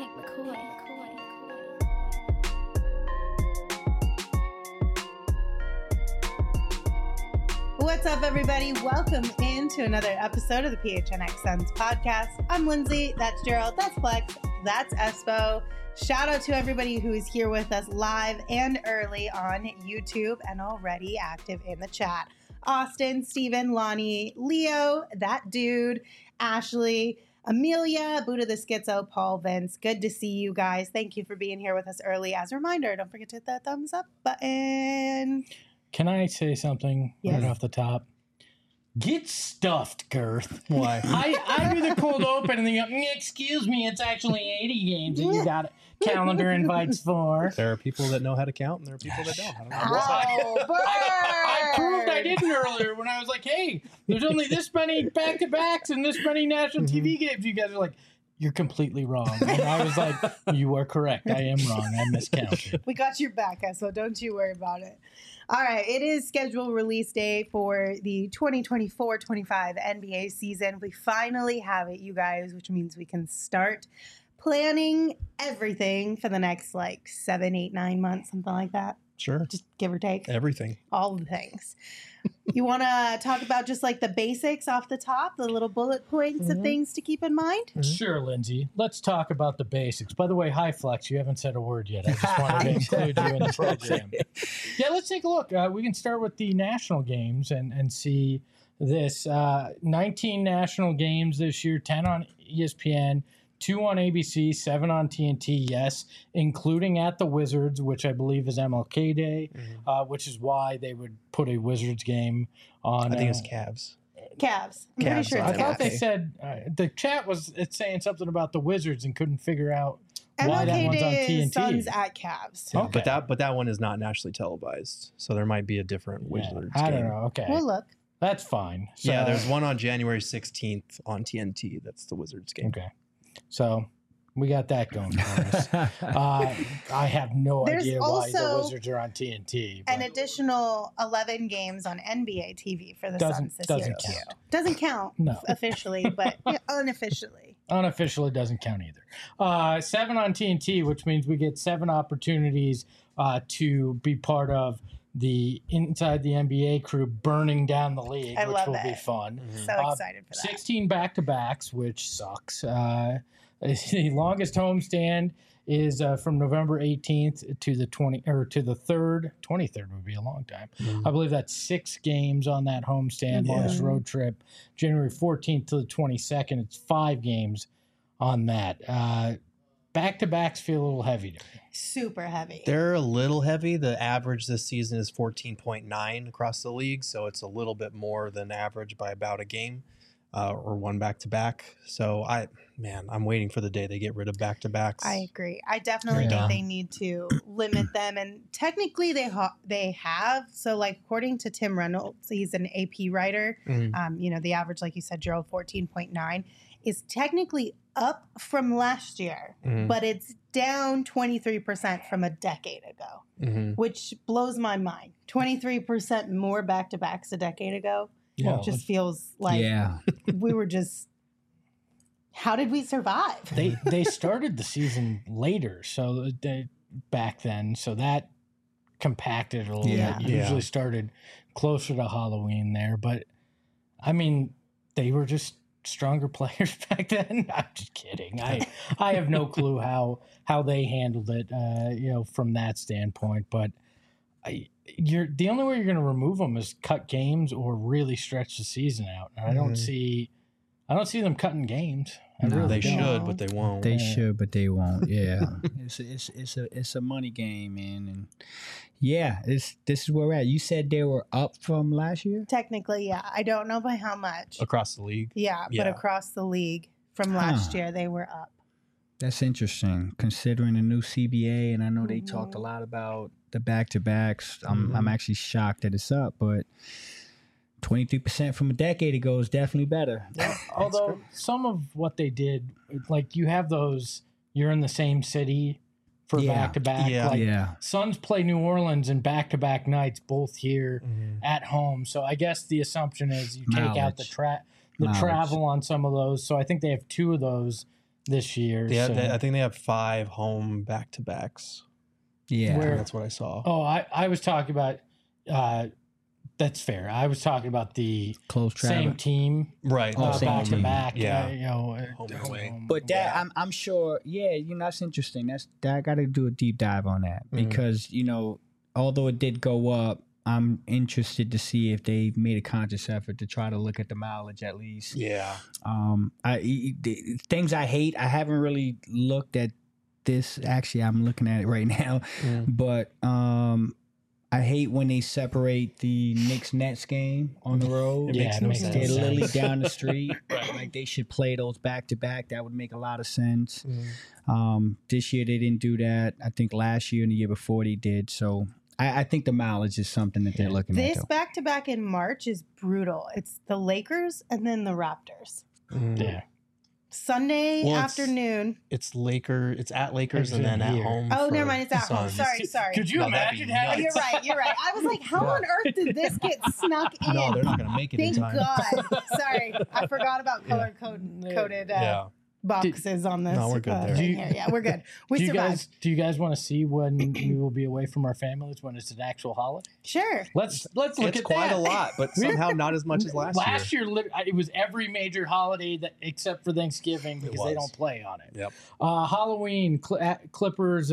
What's up, everybody? Welcome into another episode of the PHNX Suns podcast. I'm Lindsay. That's Gerald. That's Flex. That's Espo. Shout out to everybody who is here with us live and early on YouTube and already active in the chat. Austin, Steven, Lonnie, Leo, that dude, Ashley, Amelia, Buddha the Schizo, Paul, Vince. Good to see you guys. Thank you for being here with us early. As a reminder, don't forget to hit that thumbs up button. Can I say something right off the top? Get stuffed, Girth. Why? I do the cold open and then you go, excuse me, it's actually 80 games and you got calendar invites for. There are people that know how to count and there are people that don't. I proved I didn't earlier when I was like, hey, there's only this many back-to-backs and this many national TV games. You guys are like, you're completely wrong. And I was like, you are correct. I am wrong. I miscounted. We got your back, so don't you worry about it. All right, it is scheduled release day for the 2024-25 NBA season. We finally have it, you guys, which means we can start planning everything for the next 7, 8, 9 months, something like that. Sure. Just give or take. Everything. All the things. You want to talk about just the basics off the top, the little bullet points of things to keep in mind? Mm-hmm. Sure, Lindsay. Let's talk about the basics. By the way, hi, Flex. You haven't said a word yet. I just wanted to include you in the program. Yeah, let's take a look. We can start with the national games and see this. 19 national games this year, 10 on ESPN, 2 on ABC, 7 on TNT, yes, including at the Wizards, which I believe is MLK Day, which is why they would put a Wizards game on. I think it's Cavs. Cavs. I'm pretty sure I it's thought Cavs. they said the chat was saying something about the Wizards and couldn't figure out why that MLK one's on Day TNT. is Suns at Cavs. Yeah, Okay. But that one is not nationally televised, so there might be a different Wizards I game. don't know. Okay. We'll look. That's fine. So, Yeah, there's one on January 16th on TNT. That's the Wizards game. Okay. So we got that going for us. I have no There's idea why the also Wizards are on TNT. An but additional 11 games on NBA TV for the Suns this year, doesn't too. count. Doesn't count No. officially, but unofficially. Unofficially doesn't count either. 7 on TNT, which means we get 7 opportunities to be part of the Inside the NBA crew burning down the league, I which love will it. be fun. So excited for that. 16 back-to-backs, which sucks. The longest homestand is from November 18th to the 3rd. 23rd would be a long time. I believe that's 6 games on that homestand, longest road trip. January 14th to the 22nd, it's 5 games on that. Back-to-backs feel a little heavy to me. Super heavy. They're a little heavy. The average this season is 14.9 across the league, so it's a little bit more than average by about a game or one back-to-back. So I'm waiting for the day they get rid of back-to-backs. I agree. I definitely think they need to limit them, and technically they have. So, according to Tim Reynolds, he's an AP writer. The average, like you said, Gerald, 14.9 is technically up from last year, but it's down 23% from a decade ago, which blows my mind. 23% more back-to-backs a decade ago. Yeah, It just feels like we were just. How did we survive? They started the season later, so back then, so that compacted a little bit. Usually started closer to Halloween there, but I mean, they were just stronger players back then. I'm just kidding. I have no clue how they handled it, from that standpoint. But the only way you're going to remove them is cut games or really stretch the season out. And I don't see them cutting games. They should, but they won't. They should, but they won't. Yeah, it's a money game, man. And this is where we're at. You said they were up from last year. Technically, yeah. I don't know by how much. Across the league. Yeah, but across the league from last year, they were up. That's interesting, considering the new CBA, and I know they talked a lot about the back-to-backs. I'm actually shocked that it's up, but 23% from a decade ago is definitely better. Yeah. Although some of what they did, you have those, you're in the same city for back-to-back. Suns play New Orleans in back-to-back nights, both here at home. So I guess the assumption is you take out the travel on some of those. So I think they have 2 of those this year. Yeah, so. I think they have 5 home back-to-backs. Yeah, That's what I saw. Oh, I was talking about. That's fair. I was talking about the close same team, Right. back to back. Yeah. Home and away. But that I'm sure, that's interesting. I got to do a deep dive on that because although it did go up, I'm interested to see if they made a conscious effort to try to look at the mileage at least. Yeah. Things I hate. I haven't really looked at this. Actually, I'm looking at it right now, but I hate when they separate the Knicks Nets game on the road. It makes no They're sense. literally down the street. Like they should play those back to back. That would make a lot of sense. This year they didn't do that. I think last year and the year before they did. So I think the mileage is something that they're looking at. This back to back in March is brutal. It's the Lakers and then the Raptors. Yeah. Sunday afternoon. It's at Lakers and then at home. Oh, for never mind. It's at home. Suns. Sorry. Could you imagine having? You're right. I was like, how on earth did this get snuck in? No, they're not going to make it Thank in time. God. Sorry. I forgot about color-coded boxes on this. No, we're good there. Thing here. Yeah, we're good. We survived. Do you guys want to see when we will be away from our families when it's an actual holiday? Sure. Let's look It's at quite that. a lot, but somehow not as much as last year. Last year, it was every major holiday except for Thanksgiving because they don't play on it. Yep. Halloween, Clippers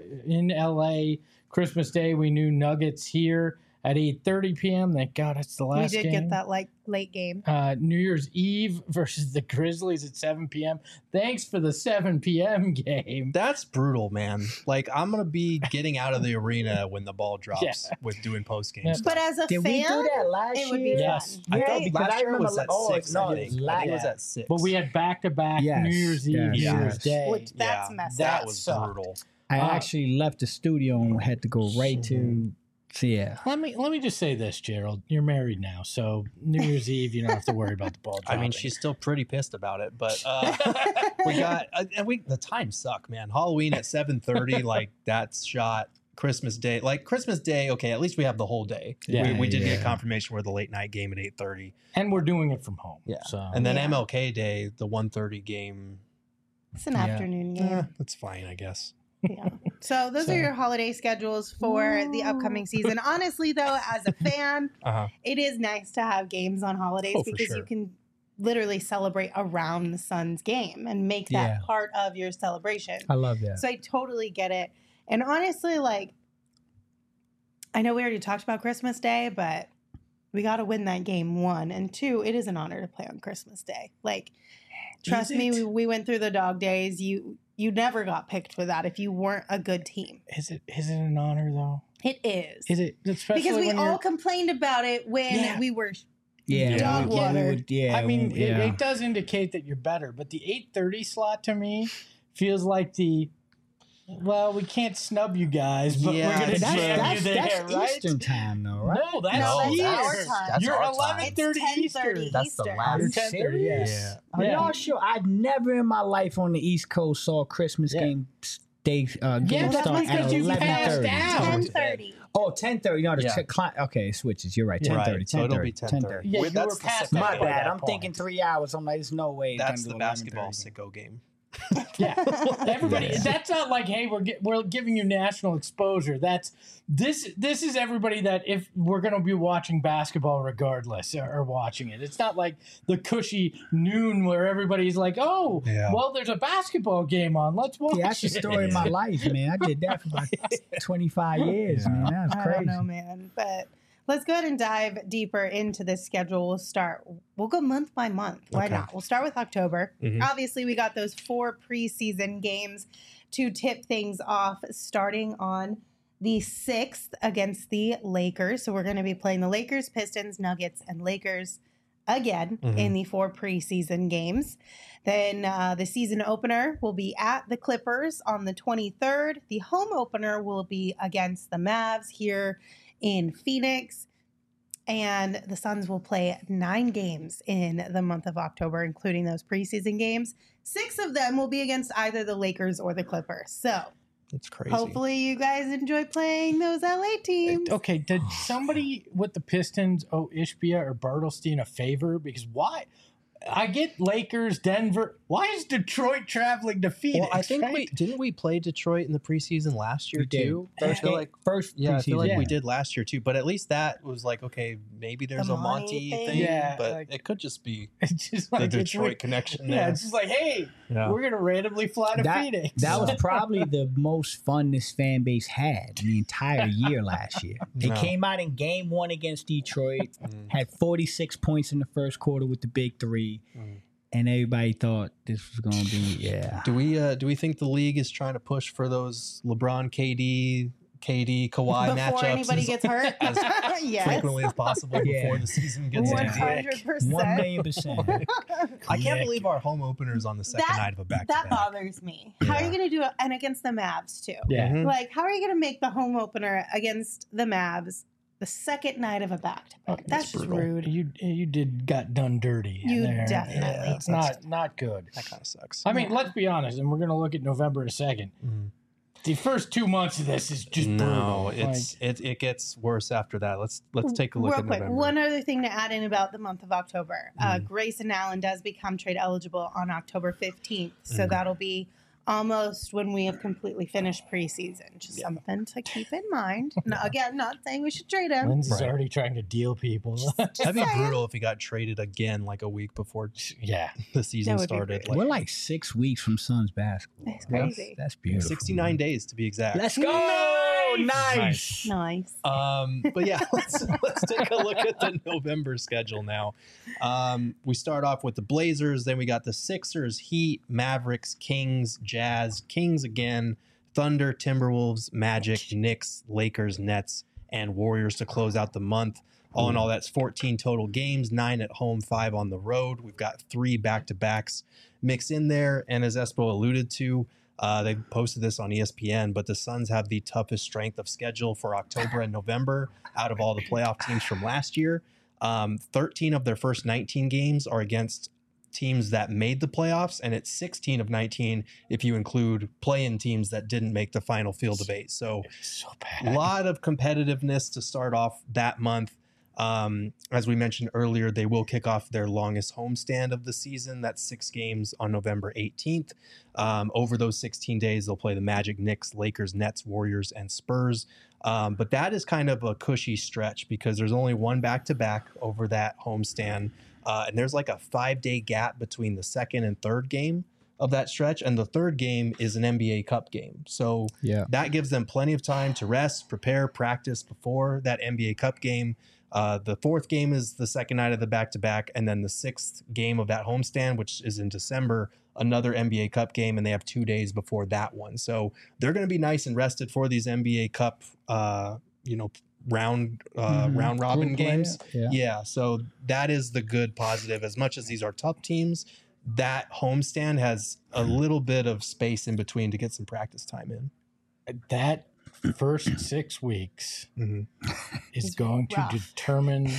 in LA. Christmas Day, we knew Nuggets here at 8:30 p.m. Thank God it's the last game. We did get that late game. New Year's Eve versus the Grizzlies at 7 p.m. Thanks for the 7 p.m. game. That's brutal, man. Like, I'm going to be getting out of the arena when the ball drops with doing post-game stuff. But as a Did fan, we do that last it would be year? Yes. I fun. thought Right? last year was at 6, no, I think. I think it was at 6. But we had back-to-back Yes, New Year's Eve, New yes. Year's Day. Which that's messed that up. was sucked. brutal. I actually left the studio and had to go right to. So yeah. Let me just say this, Gerald. You're married now, so New Year's Eve, you don't have to worry about the ball dropping. I mean, she's still pretty pissed about it, but we got the times suck, man. Halloween at 7:30, like that's shot. Christmas Day, okay, at least we have the whole day. Yeah. we did get confirmation we're the late night game at 8:30. And we're doing it from home. Yeah. So. And then MLK Day, the 1:30 game. It's an afternoon game. That's fine, I guess. Yeah. So those are your holiday schedules for the upcoming season. Honestly, though, as a fan, it is nice to have games on holidays because you can literally celebrate around the Suns game and make that part of your celebration. I love that. So I totally get it. And honestly, like, I know we already talked about Christmas Day, but we got to win that game, 1. And 2, it is an honor to play on Christmas Day. Like, trust me, we went through the dog days. You never got picked for that if you weren't a good team. Is it an honor though? It is. Is it? Especially because we when all complained about it when we were dog water. I mean, it does indicate that you're better, but the 8:30 slot to me feels like we can't snub you guys, but we're going to jam you there, that's right? Eastern time, though, right? No, that's our time. You're our time. 11:30 Eastern. That's the last. 10:30. Yes. Are y'all sure? I never in my life on the East Coast saw Christmas game day game that's start at because you passed 11:30. out. 10:30. Oh, 10:30. No, okay, it switches. You're right. 10:30. Right, so it'll be 10:30. Yeah, you That's were the past sicko My that by bad. that I'm point. thinking 3 hours. I'm like, there's no way. it's That's gonna the do basketball 11:30. sicko game. Yeah, everybody. That's not like, hey, we're giving you national exposure. This is everybody that if we're going to be watching basketball regardless or watching it. It's not like the cushy noon where everybody's like, oh, well, there's a basketball game on. Let's watch. Yeah, that's the story of my life, man. I did that for about 25 years, man. That was crazy. I don't know, man, but. Let's go ahead and dive deeper into this schedule. We'll go month by month. Why not? We'll start with October. Obviously, we got those 4 preseason games to tip things off, starting on the 6th against the Lakers. So we're going to be playing the Lakers, Pistons, Nuggets, and Lakers again in the 4 preseason games. Then the season opener will be at the Clippers on the 23rd. The home opener will be against the Mavs here in Phoenix, and the Suns will play 9 games in the month of October, including those preseason games. 6 of them will be against either the Lakers or the Clippers. So It's crazy. hopefully you guys enjoy playing those LA teams. Okay, did somebody with the Pistons owe Ishbia or Bartlestein a favor? Because why? I get Lakers, Denver. Why is Detroit traveling to Phoenix? Well, I think right? didn't we play Detroit in the preseason last year too? I feel like first I feel like preseason. we did last year too. But at least that was like, okay, maybe there's The a Monty Monty thing. thing, Yeah, but like- it could just be It's just the like Detroit connection. Yeah, there. it's just like, hey, Yeah. we're gonna randomly fly to Phoenix. That was probably the most fun this fan base had the entire year last year. They No. came out in game 1 against Detroit, Mm. had 46 points in the first quarter with the big three, and everybody thought this was going to be, Do we think the league is trying to push for those LeBron, KD, Kawhi Before matchups anybody gets hurt. as Yes. frequently as possible Yeah. before the season gets Yeah. into 100%. 1,000,000%. I can't believe our home opener is on the second night of a That back-to-back. bothers me. How are you going to do it? And against the Mavs, too. Yeah. Mhm. Like, how are you going to make the home opener against the Mavs the second night of a back-to-back? That's just brutal. rude. You got done dirty. You there. definitely It's not good. That kind of sucks. I mean, Yeah. let's be honest, and we're gonna look at November in a second. Mhm. The first 2 months of this is just No, brutal. it gets worse after that. Let's take a look Real at quick, November. one other thing to add in about the month of October. Mm-hmm. Grayson Allen does become trade eligible on October 15th. So Mm. that'll be almost when we have completely finished preseason. Just something to keep in mind. No, again, not saying we should trade him. Lindsay's Right. already trying to deal people. That'd be saying. brutal if he got traded again like a week before yeah. the season That would be started. brutal. We're like 6 weeks from Suns basketball. It's crazy. That's beautiful. 69 days to be exact. Let's go. Nice. Nice. But yeah, let's take a look at the November schedule now. We start off with the Blazers, then we got the Sixers, Heat, Mavericks, Kings, Jazz, Kings again, Thunder, Timberwolves, Magic, Knicks, Lakers, Nets, and Warriors to close out the month. All in all, that's 14 total games, 9 at home, 5 on the road. We've got 3 back-to-backs mixed in there, and as Espo alluded to, they posted this on ESPN, but the Suns have the toughest strength of schedule for October and November out of all the playoff teams from last year. 13 of their first 19 games are against teams that made the playoffs, and it's 16 of 19 if you include play-in teams that didn't make the final field of 8. So So a bad. lot of competitiveness to start off that month. As we mentioned earlier, they will kick off their longest homestand of the season. That's 6 games on November 18th. Over those 16 days, they'll play the Magic, Knicks, Lakers, Nets, Warriors, and Spurs. But that is kind of a cushy stretch because there's only one back-to-back over that homestand. And there's like a 5-day gap between the second and third game of that stretch. And the third game is an NBA Cup game. So Yeah. that gives them plenty of time to rest, prepare, practice before that NBA Cup game. The fourth game is the second night of the back-to-back, and then the 6th game of that homestand, which is in December, another NBA Cup game, and they have 2 days before that one. So they're going to be nice and rested for these NBA Cup, round robin Group play, games. yeah. So that is the good positive. As much as these are tough teams, that homestand has a little bit of space in between to get some practice time in. That first 6 weeks Mhm. is It's going to rough. determine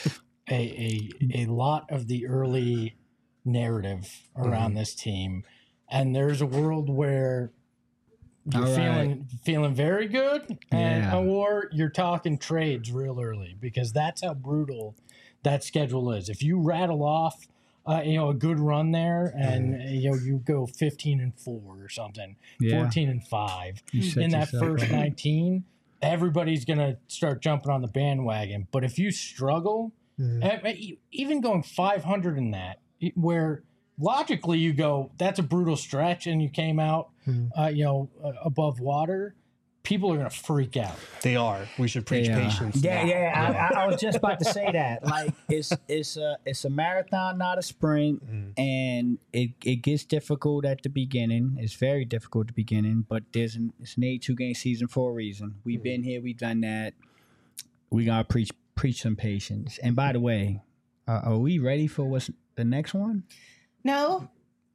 a lot of the early narrative around this team. And there's a world where you're All right. feeling very good, and Yeah. or you're talking trades real early, because that's how brutal that schedule is. If you rattle off a good run there, and you go 15-4 or something, Yeah. 14-5 You set in that yourself first up. 19, everybody's gonna start jumping on the bandwagon. But if you struggle, even going 500 in that, where logically you go, that's a brutal stretch, and you came out, above water, people are gonna freak out. They are. We should preach patience. Yeah, now. yeah. I was just about to say that. Like it's a marathon, not a sprint, and it gets difficult at the beginning. It's very difficult at the beginning, but it's an 82 game season for a reason. We've been here, we've done that. We gotta preach some patience. And by the way, are we ready for what's the next one? No.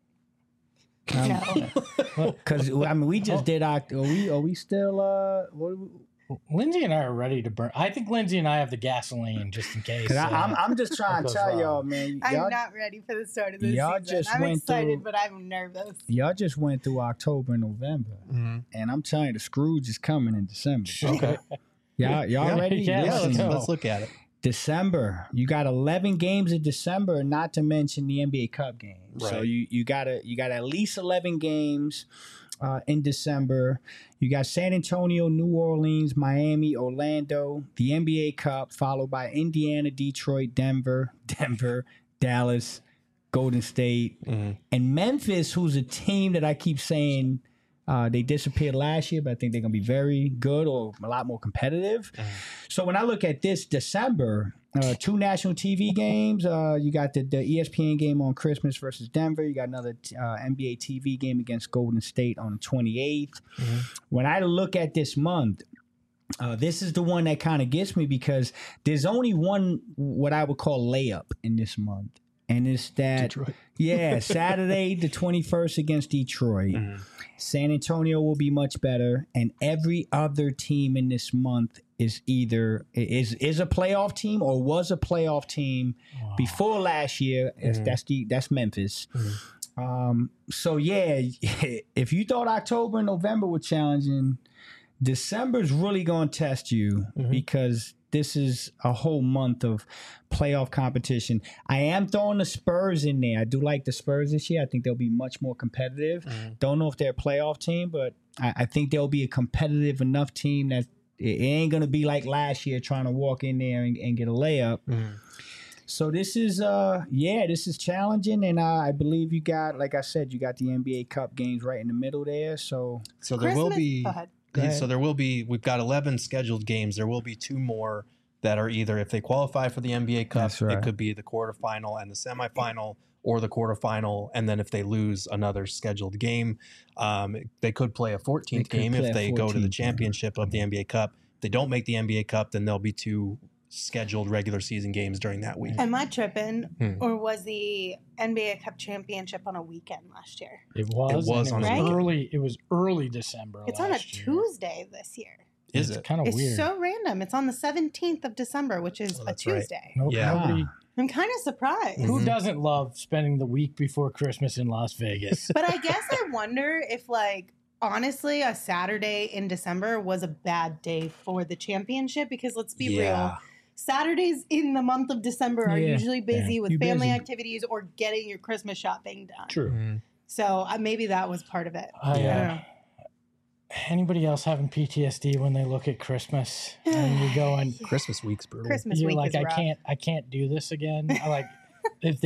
No. Because I mean, we just did our. Are we still? Lindsay and I are ready to burn. I think Lindsay and I have the gasoline just in case. Because I'm just trying to goes tell wrong. y'all, man. I'm Y'all, not ready for the start of this y'all season. just I'm went excited, through- but I'm nervous. y'all just went through October and November, and I'm telling you, the Scrooge is coming in December. Okay. Y'all ready? Yeah, Yeah, let's go. let's look at it. December, you got 11 games in December, not to mention the NBA Cup games. Right. So you got at least 11 games in December. You got San Antonio, New Orleans, Miami, Orlando, the NBA Cup, followed by Indiana, Detroit, Denver, Dallas, Golden State, and Memphis, who's a team that I keep saying they disappeared last year, but I think they're going to be very good or a lot more competitive. So when I look at this December, 2 national TV games. You got the ESPN game on Christmas versus Denver. You got another NBA TV game against Golden State on the 28th. When I look at this month, this is the one that kind of gets me because there's only one what I would call layup in this month. And it's that, Detroit. Yeah, Saturday the 21st against Detroit. San Antonio will be much better, and every other team in this month is either is a playoff team or was a playoff team before last year. That's Memphis. So yeah, if you thought October and November were challenging, December's really going to test you because this is a whole month of playoff competition. I am throwing the Spurs in there. I do like the Spurs this year. I think they'll be much more competitive. Don't know if they're a playoff team, but I think they'll be a competitive enough team that it ain't going to be like last year trying to walk in there and get a layup. So this is this is challenging, and I believe you got, like I said, you got the NBA Cup games right in the middle there. So there will be. Go ahead. So there will be, we've got 11 scheduled games. There will be 2 more that are either, if they qualify for the NBA Cup, it could be the quarterfinal and the semifinal, or the quarterfinal, and then if they lose another scheduled game, they could play a 14th game if they go to the championship of the NBA Cup. If they don't make the NBA Cup, then there'll be 2 scheduled regular season games during that week. Am I tripping, or was the NBA Cup championship on a weekend last year? It was on a weekend. early. It was early December. It's on a Tuesday this year. Is It's it? kind of It's weird. so random. It's on the 17th of December, which is a that's right. Tuesday. Nobody. I'm kind of surprised. Who doesn't love spending the week before Christmas in Las Vegas? But I guess I wonder if, like, honestly, a Saturday in December was a bad day for the championship because let's be real. Saturdays in the month of December are usually busy with You're family busy. activities or getting your Christmas shopping done. True. So maybe that was part of it. I don't know. Anybody else having PTSD when they look at Christmas and you go and Christmas week's brutal. Christmas you're week like, is rough. I can't do this again. I like if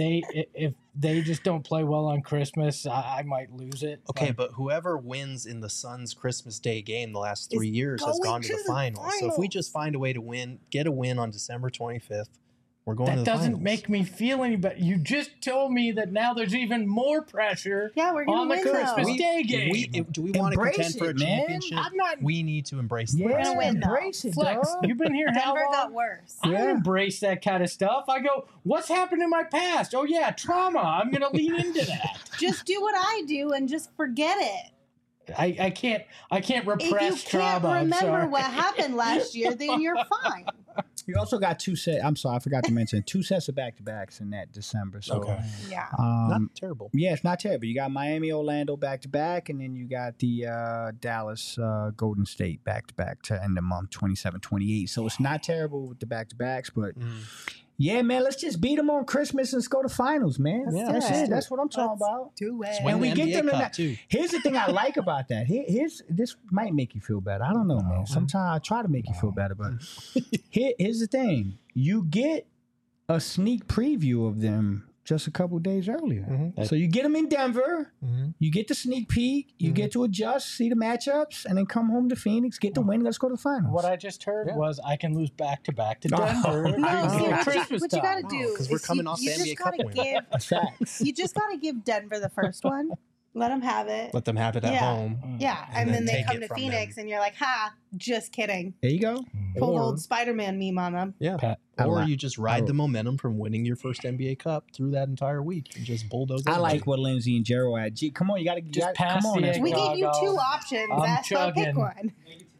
they just don't play well on Christmas, I might lose it. Okay, Like, but whoever wins in the Suns' Christmas Day game the last 3 years has going gone to to the the finals. So if we finals. just find a way to get a win on December 25th, we're going to that the doesn't finals. make me feel any better. You just told me that now there's even more pressure Yeah, we're on gonna the win Christmas though. Day game. Do we want to Embrace contend for a it, man. championship? I'm not. We need to embrace the Yeah, We're gonna win, though. embrace it, Flex, dog. you've been here how Denver long? got worse. I don't embrace that kind of stuff. I go, what's happened in my past? Oh yeah, trauma. I'm gonna lean into that. Just do what I do and just forget it. I can't If you repress can't trauma. I'm remember sorry. what happened last year, then you're fine. You also got 2 sets. I'm sorry, I forgot to mention 2 sets of back-to-backs in that December. So, Okay. Yeah. Not terrible. yeah, it's not terrible. You got Miami, Orlando back-to-back, and then you got the Dallas, Golden State back-to-back to end the month, 27-28. So it's not terrible with the back-to-backs, but yeah, man, let's just beat them on Christmas and let's go to finals, man. Let's do That's it. it. That's what I'm talking Let's about. Do it. Win And we the get NBA them in Cup, that- too. Here's the thing I like about that. Here's this might make you feel better. I don't know, man. Sometimes I try to make you feel better, but here's the thing: you get a sneak preview of them just a couple days earlier. So you get them in Denver, you get the sneak peek, you get to adjust, see the matchups, and then come home to Phoenix, get the win. Let's go to the finals. What I just heard was I can lose back to back to Denver. No, before see, Christmas what you time. gotta do 'cause we're is coming off the you NBA just Cup gotta win. give Facts. you just gotta give Denver the first one. Let them have it. Let them have it at Yeah. home. Yeah, and then then they take come it to from Phoenix, them. and you're like, "Ha, just kidding." There you go. Pull Or- old Spider-Man meme on them. Yeah. Pat, Or I you just ride the momentum from winning your first NBA Cup through that entire week and just bulldoze I everybody. like what Lindsay and Gerald had. Gee, come on, you got to Just pass come on. the Espo. egg. We Well, gave you I'll 2 go. options. I'm Espo, pick chugging. one.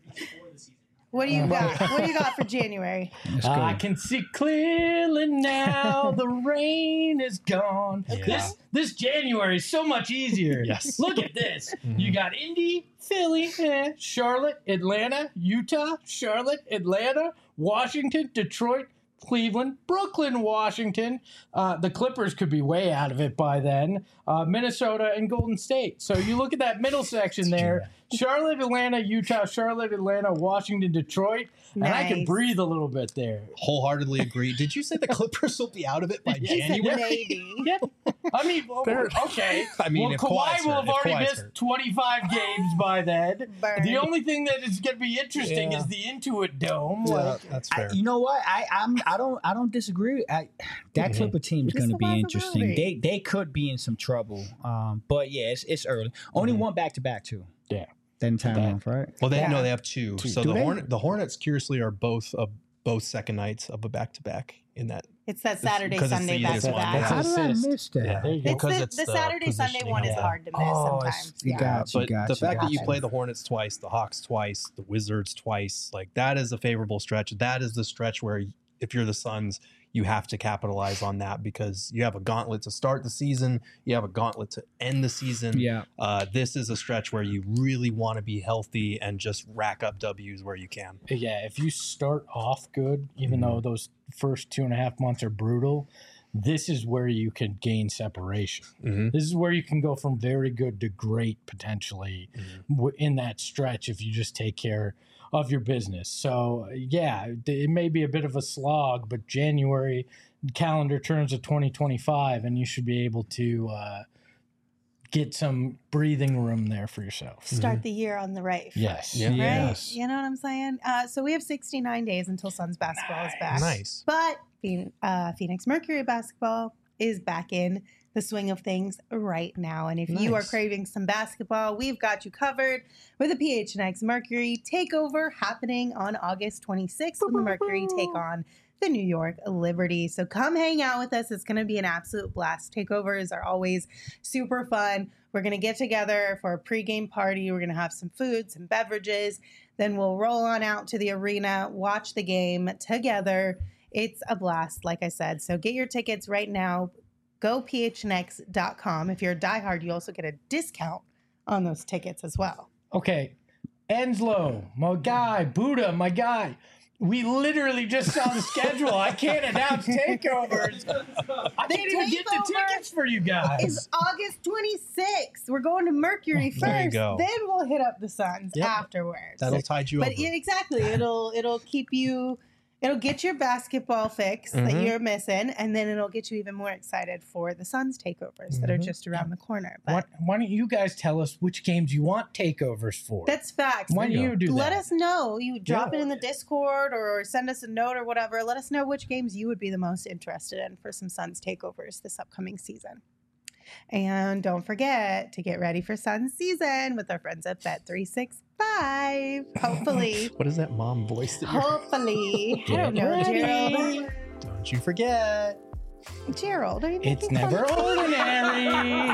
What do you got? What do you got for January? Let's go. I can see clearly now. The rain is gone. Yeah. This January is so much easier. Yes. Look at this. You got Indy, Philly, Charlotte, Atlanta, Utah, Charlotte, Atlanta, Washington, Detroit, Cleveland, Brooklyn, Washington. The Clippers could be way out of it by then. Minnesota and Golden State. So you look at that middle section there. Charlotte, Atlanta, Utah, Charlotte, Atlanta, Washington, Detroit. And I can breathe a little bit there. Wholeheartedly agree. Did you say the Clippers will be out of it by January? Maybe. Yeah. I mean, okay. I mean, well, Kawhi will have already missed 25 games by then. Burn. The only thing that is going to be interesting is the Intuit Dome. Yeah, that's fair. You know what? I don't disagree. That Clipper team is going to be interesting. They could be in some trouble. But yeah, it's early. Only one back-to-back too. Yeah. That entire month, right? Well, they have two. So Do the Hornets, curiously, are both second nights of a back-to-back in that. It's that Saturday, because it's Sunday the back easiest to one. back. How did I miss that? Yeah. There you go. It's the Saturday, Sunday one is hard to miss sometimes. You got you. But the fact that you Gotcha. play the Hornets twice, the Hawks twice, the Wizards twice, like that is a favorable stretch. That is the stretch where if you're the Suns, you have to capitalize on that because you have a gauntlet to start the season. You have a gauntlet to end the season. Yeah. This is a stretch where you really want to be healthy and just rack up W's where you can. Yeah, if you start off good, even though those first 2.5 months are brutal, this is where you can gain separation. This is where you can go from very good to great potentially in that stretch if you just take care of your business. So yeah, it may be a bit of a slog, but January calendar turns to 2025 and you should be able to get some breathing room there for yourself. Start the year on the right foot. Yes. Yeah. Right? Yes. You know what I'm saying? So we have 69 days until Suns basketball is back. Nice. But Phoenix Mercury basketball is back in the swing of things right now. And if you are Nice. craving some basketball, we've got you covered with a PHNX Mercury takeover happening on August 26th when the Mercury take on the New York Liberty. So come hang out with us. It's going to be an absolute blast. Takeovers are always super fun. We're going to get together for a pregame party. We're going to have some food, some beverages. Then we'll roll on out to the arena, watch the game together. It's a blast, like I said. So get your tickets right now. Go phnx.com. If you're a diehard, you also get a discount on those tickets as well. Okay. Enslow, my guy. Buddha, my guy. We literally just saw the schedule. I can't announce takeovers. I can't even get the tickets for you guys. It's August 26th. We're going to Mercury first. There you go. Then we'll hit up the Suns Yep. afterwards. That'll tide you over. But exactly, it'll keep you. It'll get your basketball fix that you're missing, and then it'll get you even more excited for the Suns takeovers that are just around the corner. But Why don't you guys tell us which games you want takeovers for? that's facts. Why don't you do that? Let us know. You drop it in the Discord or send us a note or whatever. Let us know which games you would be the most interested in for some Suns takeovers this upcoming season. And don't forget to get ready for Suns season with our friends at Bet365. Hopefully. What is that mom voice that you're... Hopefully. I don't know, Gerald. Don't you forget. Gerald, are you It's making fun never of ordinary.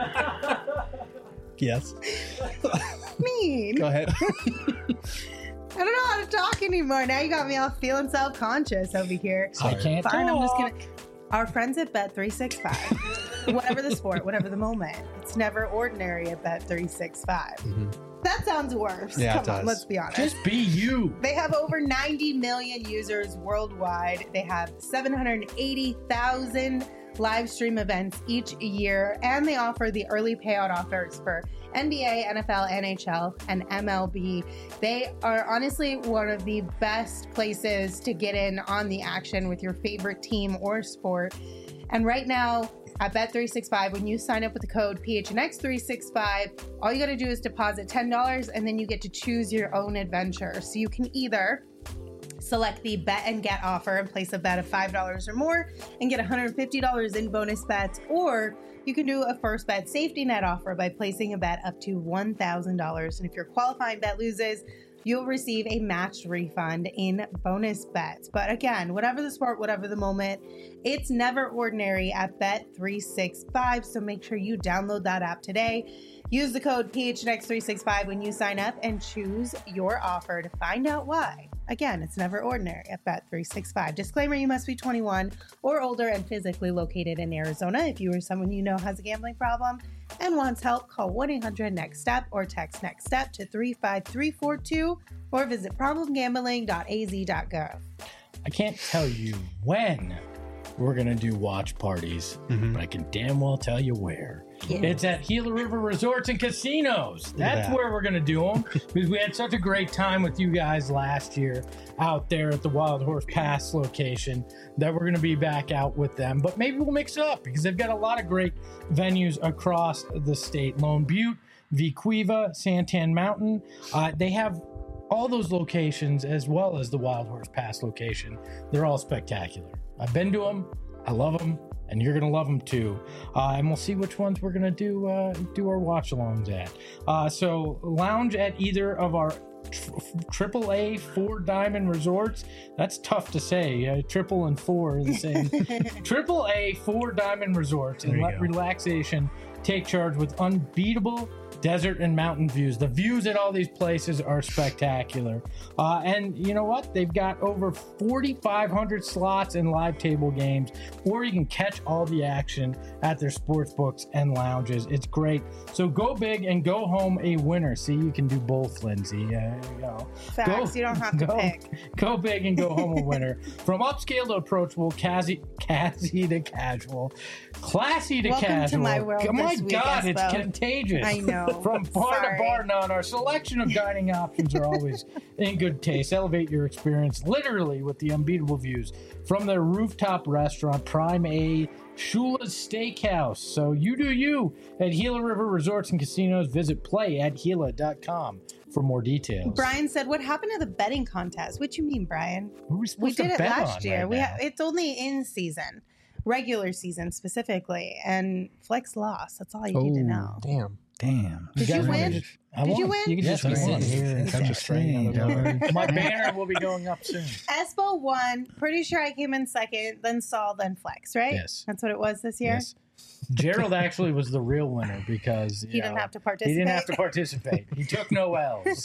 Yes. me? Go ahead. I don't know how to talk anymore. Now you got me all feeling self-conscious over here. I can't Fine, I'm just talk. gonna. Our friends at Bet365, whatever the sport, whatever the moment, it's never ordinary at Bet365. That sounds worse. Yeah, it Come on, does. let's be honest. Just be you. They have over 90 million users worldwide. They have 780,000 live stream events each year, and they offer the early payout offers for NBA, NFL, NHL, and MLB. They are honestly one of the best places to get in on the action with your favorite team or sport. And right now, at Bet365, when you sign up with the code PHNX365, all you got to do is deposit $10, and then you get to choose your own adventure. So you can either select the bet and get offer and place a bet of $5 or more and get $150 in bonus bets, or you can do a first bet safety net offer by placing a bet up to $1,000. And if your qualifying bet loses, you'll receive a matched refund in bonus bets. But again, whatever the sport, whatever the moment, it's never ordinary at Bet365. So make sure you download that app today. Use the code PHNX365 when you sign up and choose your offer to find out why. Again, it's never ordinary at Bet365. Disclaimer, you must be 21 or older and physically located in Arizona. If you or someone you know has a gambling problem and wants help, call 1-800-NEXT-STEP or text NEXT STEP to 35342 or visit problemgambling.az.gov. I can't tell you when we're going to do watch parties, but I can damn well tell you where. Yeah. It's at Gila River Resorts and Casinos. That's where we're going to do them, because we had such a great time with you guys last year out there at the Wild Horse Pass location that we're going to be back out with them. But maybe we'll mix it up, because they've got a lot of great venues across the state. Lone Butte, Vequiva, Santan Mountain. They have all those locations as well as the Wild Horse Pass location. They're all spectacular. I've been to them. I love them. And you're going to love them too. And we'll see which ones we're going to do our watch-alongs at. So lounge at either of our AAA 4-diamond resorts. That's tough to say. Triple and four are the same. AAA 4-diamond resorts, and let relaxation take charge with unbeatable desert and mountain views. The views at all these places are spectacular. And you know what? They've got over 4,500 slots and live table games, or you can catch all the action at their sports books and lounges. It's great. So go big and go home a winner. See, you can do both, Lindsay. There you go. Facts. You don't have to pick. Go big and go home a winner. From upscale to approachable, classy to casual, classy to Welcome casual. To my world oh my this week, God, Espo. it's contagious. I know. From bar to bar none, our selection of dining options are always in good taste. Elevate your experience literally with the unbeatable views from their rooftop restaurant, Prime A, Shula's Steakhouse. So you do you at Gila River Resorts and Casinos. Visit play@gila.com for more details. Brian said, "What happened to the betting contest?" What you mean, Brian? We did it last year. Right It's only in season, regular season specifically, and Flex lost. That's all you need to know. Damn. Did you win? Did you win? You can just be sitting here and I'm just saying. My banner will be going up soon. Espo won. Pretty sure I came in second, then Saul, then Flex, right? Yes. That's what it was this year? Yes. Gerald actually was the real winner because he didn't have to participate. He didn't have to participate. He took no L's.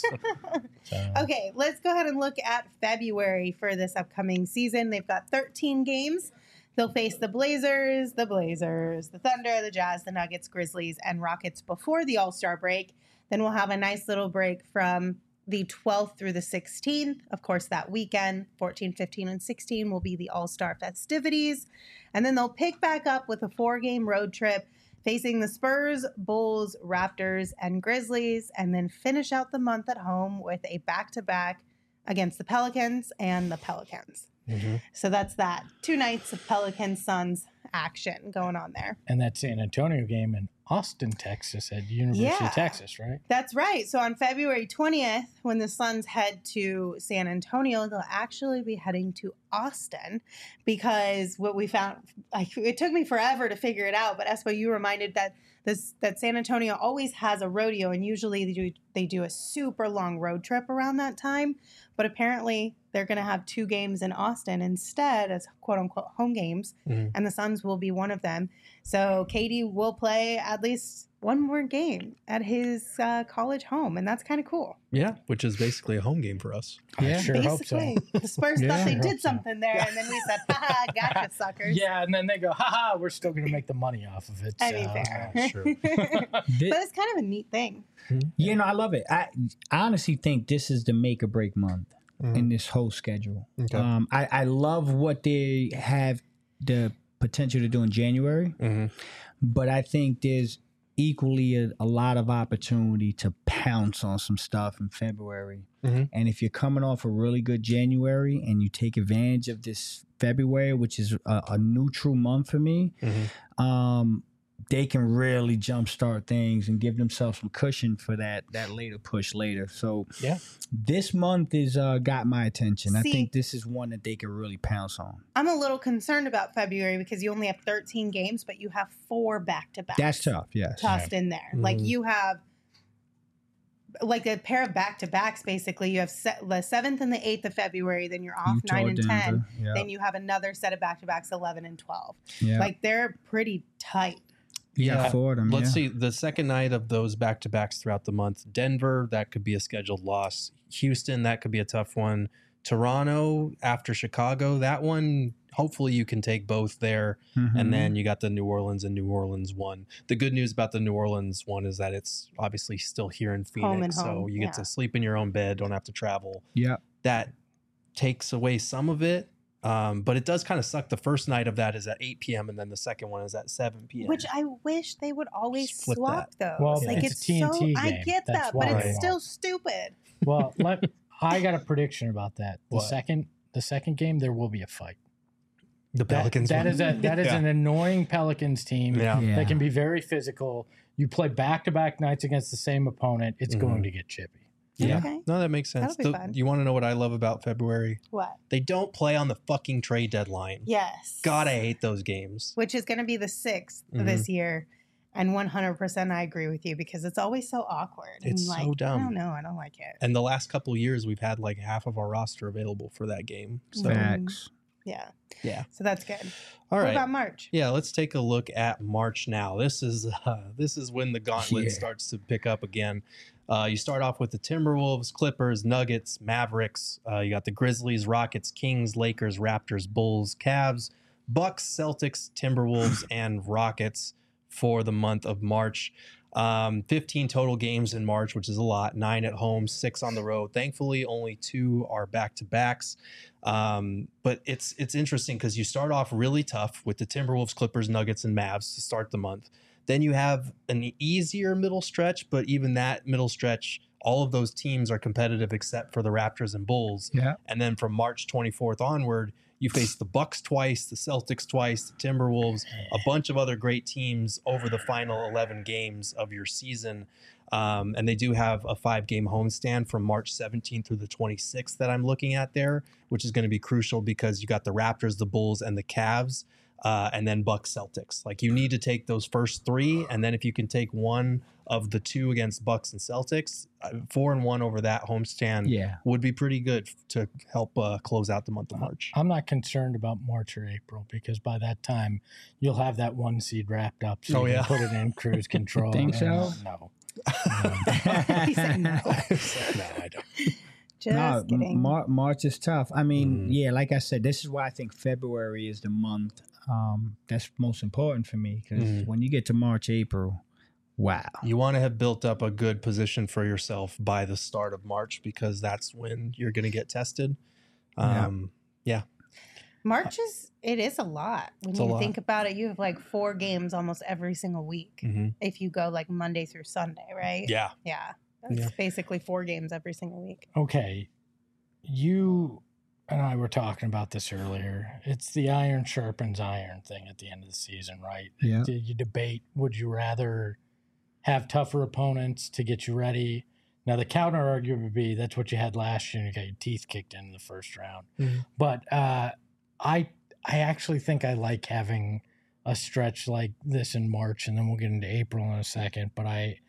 Okay, let's go ahead and look at February for this upcoming season. They've got 13 games. They'll face the Blazers, the Thunder, the Jazz, the Nuggets, Grizzlies, and Rockets before the All-Star break. Then we'll have a nice little break from the 12th through the 16th. Of course, that weekend, 14, 15, and 16 will be the All-Star festivities. And then they'll pick back up with a 4-game road trip facing the Spurs, Bulls, Raptors, and Grizzlies, and then finish out the month at home with a back-to-back against the Pelicans and the Pelicans. Mm-hmm. So that's that. 2 nights of Pelicans Suns action going on there. And that San Antonio game in Austin, Texas at University of Texas, right? That's right. So on February 20th, when the Suns head to San Antonio, they'll actually be heading to Austin, because what we found, it took me forever to figure it out, but Espo, you reminded that San Antonio always has a rodeo, and usually they do a super long road trip around that time. But apparently they're going to have 2 games in Austin instead as quote unquote home games. Mm-hmm. And the Suns will be one of them. So KD will play at least one more game at his college home. And that's kind of cool. Yeah, which is basically a home game for us. Yeah, sure basically. Hope so. The Spurs thought they did something there. And then we said, haha, gotcha, suckers. Yeah, and then they go, haha, we're still going to make the money off of it. I mean, fair. Sure. But it's kind of a neat thing. You know, I love it. I honestly think this is the make or break month in this whole schedule. Okay. I love what they have the potential to do in January, but I think there's equally a lot of opportunity to pounce on some stuff in February. And if you're coming off a really good January and you take advantage of this February, which is a neutral month for me, they can really jumpstart things and give themselves some cushion for that later push later. So this month is got my attention. I think this is one that they can really pounce on. I'm a little concerned about February because you only have 13 games, but you have 4 back-to-backs. That's tough, yes. Tossed in there. Like you have like a pair of back-to-backs, basically. You have the 7th and the 8th of February, then you're off Utah, 9 and 10. Denver, Then you have another set of back-to-backs, 11 and 12. Yeah. Like they're pretty tight. Yeah, for them. Let's see. The second night of those back-to-backs throughout the month, Denver, that could be a scheduled loss. Houston, that could be a tough one. Toronto after Chicago, that one, hopefully you can take both there. And then you got the New Orleans and New Orleans one. The good news about the New Orleans one is that it's obviously still here in Phoenix. So you get to sleep in your own bed, don't have to travel. Yeah. That takes away some of it. But it does kind of suck. The first night of that is at 8 p.m. and then the second one is at 7 p.m. Which I wish they would always Just flip swap those. Well, like it's a TNT game. I get That's that, but why. it's still stupid. Well, I got a prediction about that. The What? second game, there will be a fight. The Pelicans. That is an annoying Pelicans team Yeah. Yeah. that can be very physical. You play back-to-back nights against the same opponent, it's going to get chippy. Yeah. Okay. No, that makes sense. That'll be fun. You want to know what I love about February? What? They don't play on the fucking trade deadline. Yes. God, I hate those games. Which is going to be the 6th Mhm. this year. And 100% I agree with you because it's always so awkward. It's and so dumb. I don't know. I don't like it. And the last couple of years, we've had like half of our roster available for that game. So, Facts. Yeah. yeah. So that's good. All What right. about March? Yeah, let's take a look at March now. This is when the gauntlet Yeah. starts to pick up again. You start off with the Timberwolves, Clippers, Nuggets, Mavericks. You got the Grizzlies, Rockets, Kings, Lakers, Raptors, Bulls, Cavs, Bucks, Celtics, Timberwolves, and Rockets for the month of March. 15 total games in March, which is a lot. 9 at home, 6 on the road. Thankfully, only 2 are back-to-backs. But it's interesting because you start off really tough with the Timberwolves, Clippers, Nuggets, and Mavs to start the month. Then you have an easier middle stretch, but even that middle stretch, all of those teams are competitive except for the Raptors and Bulls. Yeah. And then from March 24th onward, you face the Bucks twice, the Celtics twice, the Timberwolves, a bunch of other great teams over the final 11 games of your season. And they do have a 5-game homestand from March 17th through the 26th that I'm looking at there, which is going to be crucial because you got the Raptors, the Bulls, and the Cavs, and then Bucks, Celtics. Like you need to take those first 3, and then if you can take one of the 2 against Bucks and Celtics, 4-1 over that homestand would be pretty good to help close out the month of March. I'm not concerned about March or April because by that time you'll have that 1 seed wrapped up, so you can put it in cruise control. Think so? No. He said no. No, I don't. Just kidding. March is tough. I mean, yeah, like I said, this is why I think February is the month that's most important for me because when you get to March, April, wow. You want to have built up a good position for yourself by the start of March because that's when you're going to get tested. Yeah. March is a lot. When It's a you lot. think about it, you have like 4 games almost every single week. Mhm. If you go like Monday through Sunday, right? Yeah. Yeah. That's Yeah. basically 4 games every single week. Okay. You and I were talking about this earlier. It's the iron sharpens iron thing at the end of the season, right? Yeah. You debate, would you rather have tougher opponents to get you ready? Now, the counter argument would be that's what you had last year and you got your teeth kicked in the first round. Mhm. But I actually think I like having a stretch like this in March, and then we'll get into April in a second. But I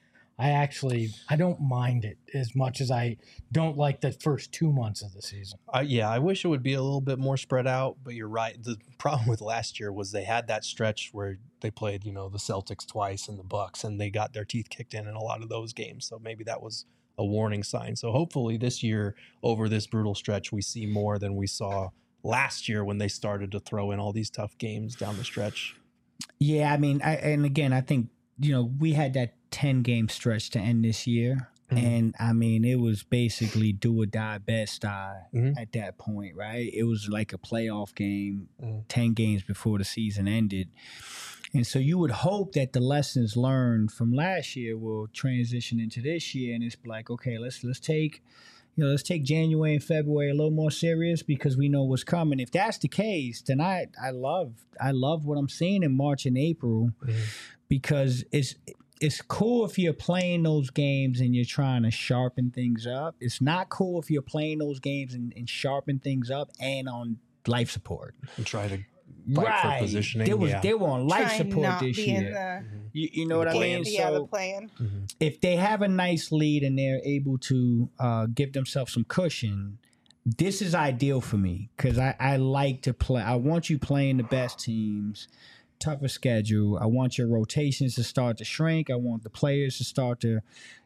don't mind it as much as I don't like the first 2 months of the season. I wish it would be a little bit more spread out, but you're right. The problem with last year was they had that stretch where they played, the Celtics twice and the Bucks, and they got their teeth kicked in a lot of those games. So maybe that was a warning sign. So hopefully this year, over this brutal stretch, we see more than we saw last year when they started to throw in all these tough games down the stretch. Yeah, I mean, I think, we had that 10-game stretch to end this year. And I mean, it was basically do or die, best die at that point, right? It was like a playoff game 10 games before the season ended. And so you would hope that the lessons learned from last year will transition into this year. And it's like, okay, let's take January and February a little more serious because we know what's coming. If that's the case, then I love what I'm seeing in March and April because it's cool if you're playing those games and you're trying to sharpen things up. It's not cool if you're playing those games and sharpen things up and on life support. And try to fight for positioning. They were on life Trying support not this be in year. the You know what I mean? Yeah, the So plan. if they have a nice lead and they're able to give themselves some cushion, this is ideal for me because I like to play. I want you playing the best teams, tougher schedule. I want your rotations to start to shrink. I want the players to start to,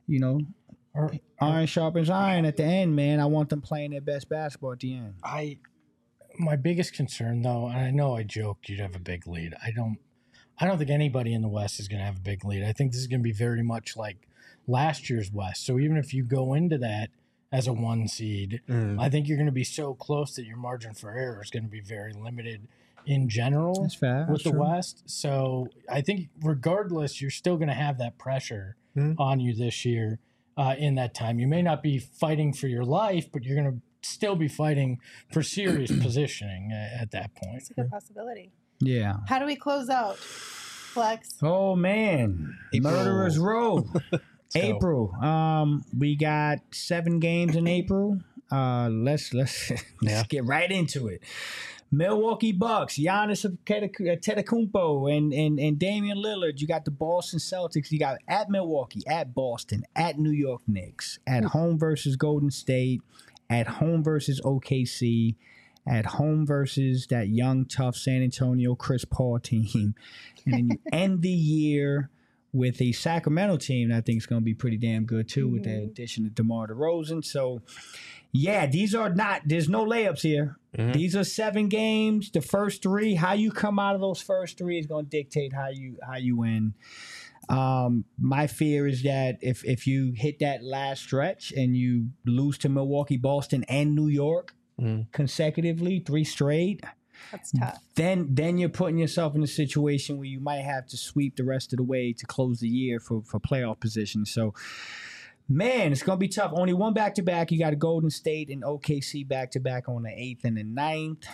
iron sharpens iron at the end, man. I want them playing their best basketball at the end. My biggest concern, though, and I know I joked you'd have a big lead. I don't think anybody in the West is going to have a big lead. I think this is going to be very much like last year's West. So even if you go into that as a 1 seed. I think you're going to be so close that your margin for error is going to be very limited in general. That's fair. With That's the true. West. So I think regardless, you're still going to have that pressure on you this year in that time. You may not be fighting for your life, but you're going to still be fighting for serious positioning at that point. It's a good possibility. Yeah. How do we close out, Flex? Oh man, April. Murderers Row. go. April. We got 7 games in April. Let's get right into it. Milwaukee Bucks, Giannis Antetokounmpo and Damian Lillard. You got the Boston Celtics. You got at Milwaukee, at Boston, at New York Knicks, at home versus Golden State, at home versus OKC, at home versus that young, tough San Antonio Chris Paul team. And then you end the year with a Sacramento team that I think is going to be pretty damn good too, with the addition of DeMar DeRozan. So, yeah, there's no layups here. These are 7 games. The first 3, how you come out of those first 3 is going to dictate how you win. My fear is that if you hit that last stretch and you lose to Milwaukee, Boston, and New York consecutively, 3 straight, That's tough. then you're putting yourself in a situation where you might have to sweep the rest of the way to close the year for playoff position. So, man, it's going to be tough. Only 1 back-to-back. You got a Golden State and OKC back-to-back on the 8th and the 9th.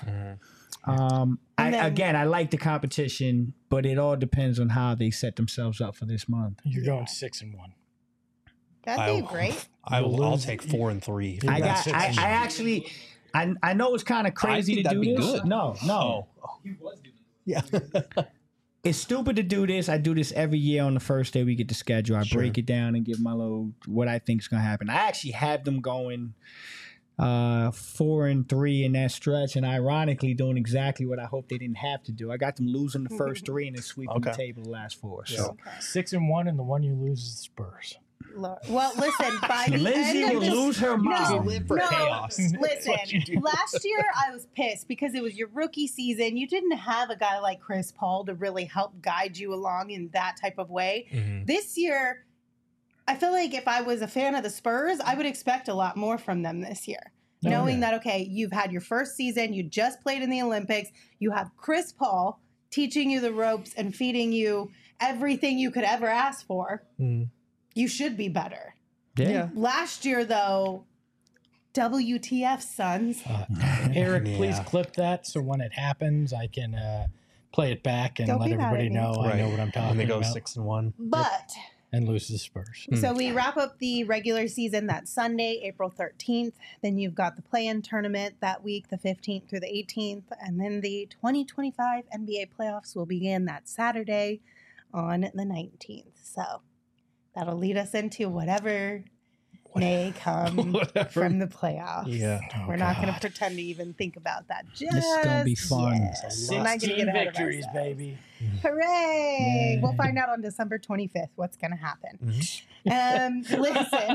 I like the competition, but it all depends on how they set themselves up for this month. You're going 6-1. That'd be great. I'll take 4 and 3. I know it's kind of crazy to do this. Good. No. Yeah. It's stupid to do this. I do this every year on the first day we get the schedule. I break it down and give my little what I think is going to happen. I actually have them going 4 and 3 in that stretch, and ironically doing exactly what I hope they didn't have to do. I got them losing the first 3 and then sweeping the table the last 4. So 6-1, and the one you lose is the Spurs. Well, listen, by the Lindsay end will of lose her mind. live for chaos. Listen, last year I was pissed because it was your rookie season. You didn't have a guy like Chris Paul to really help guide you along in that type of way. This year, I feel like if I was a fan of the Spurs, I would expect a lot more from them this year. Knowing that, okay, you've had your first season, you just played in the Olympics, you have Chris Paul teaching you the ropes and feeding you everything you could ever ask for. You should be better. Yeah. Last year, though, WTF, Suns. Eric, please clip that so when it happens, I can play it back and Don't let be mad everybody at me. know I know what I'm talking And they go about. 6-1. But And lose to the Spurs. so we wrap up the regular season that Sunday, April 13th. Then you've got the play-in tournament that week, the 15th through the 18th. And then the 2025 NBA playoffs will begin that Saturday on the 19th. So that'll lead us into whatever may come from the playoffs. Yeah. We're not going to pretend to even think about that. Just This is going to be fun. yet. We're not gonna 16 get ahead of victories, ourselves. baby. Hooray! Yeah. We'll find out on December 25th what's going to happen. Listen.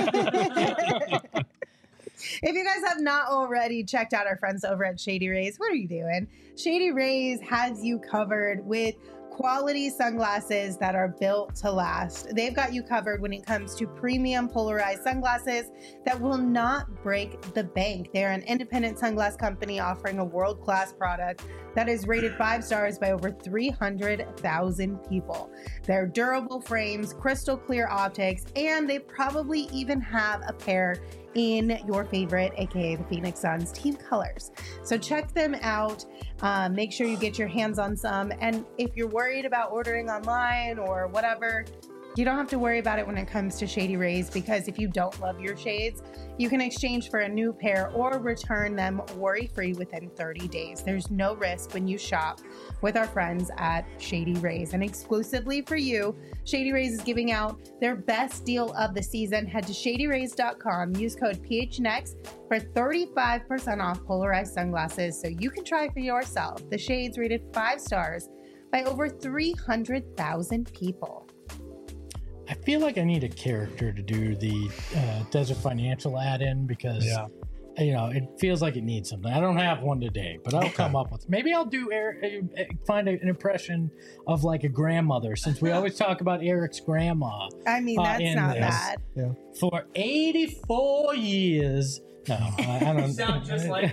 If you guys have not already checked out our friends over at Shady Rays, what are you doing? Shady Rays has you covered with quality sunglasses that are built to last. They've got you covered when it comes to premium polarized sunglasses that will not break the bank. They're an independent sunglass company offering a world-class product that is rated 5 stars by over 300,000 people. They're durable frames, crystal clear optics, and they probably even have a pair in your favorite, aka the Phoenix Suns team colors. So check them out. Make sure you get your hands on some. And if you're worried about ordering online or whatever, you don't have to worry about it when it comes to Shady Rays, because if you don't love your shades, you can exchange for a new pair or return them worry-free within 30 days. There's no risk when you shop with our friends at Shady Rays. And exclusively for you, Shady Rays is giving out their best deal of the season. Head to shadyrays.com, use code PHNX for 35% off polarized sunglasses so you can try for yourself. The shades rated 5 stars by over 300,000 people. I feel like I need a character to do the Desert Financial add-in because it feels like it needs something. I don't have one today, but I'll come up with. Maybe I'll do find an impression of like a grandmother, since we always talk about Eric's grandma. I mean, that's not bad. Yeah. For 84 years. No, I don't. You sound just like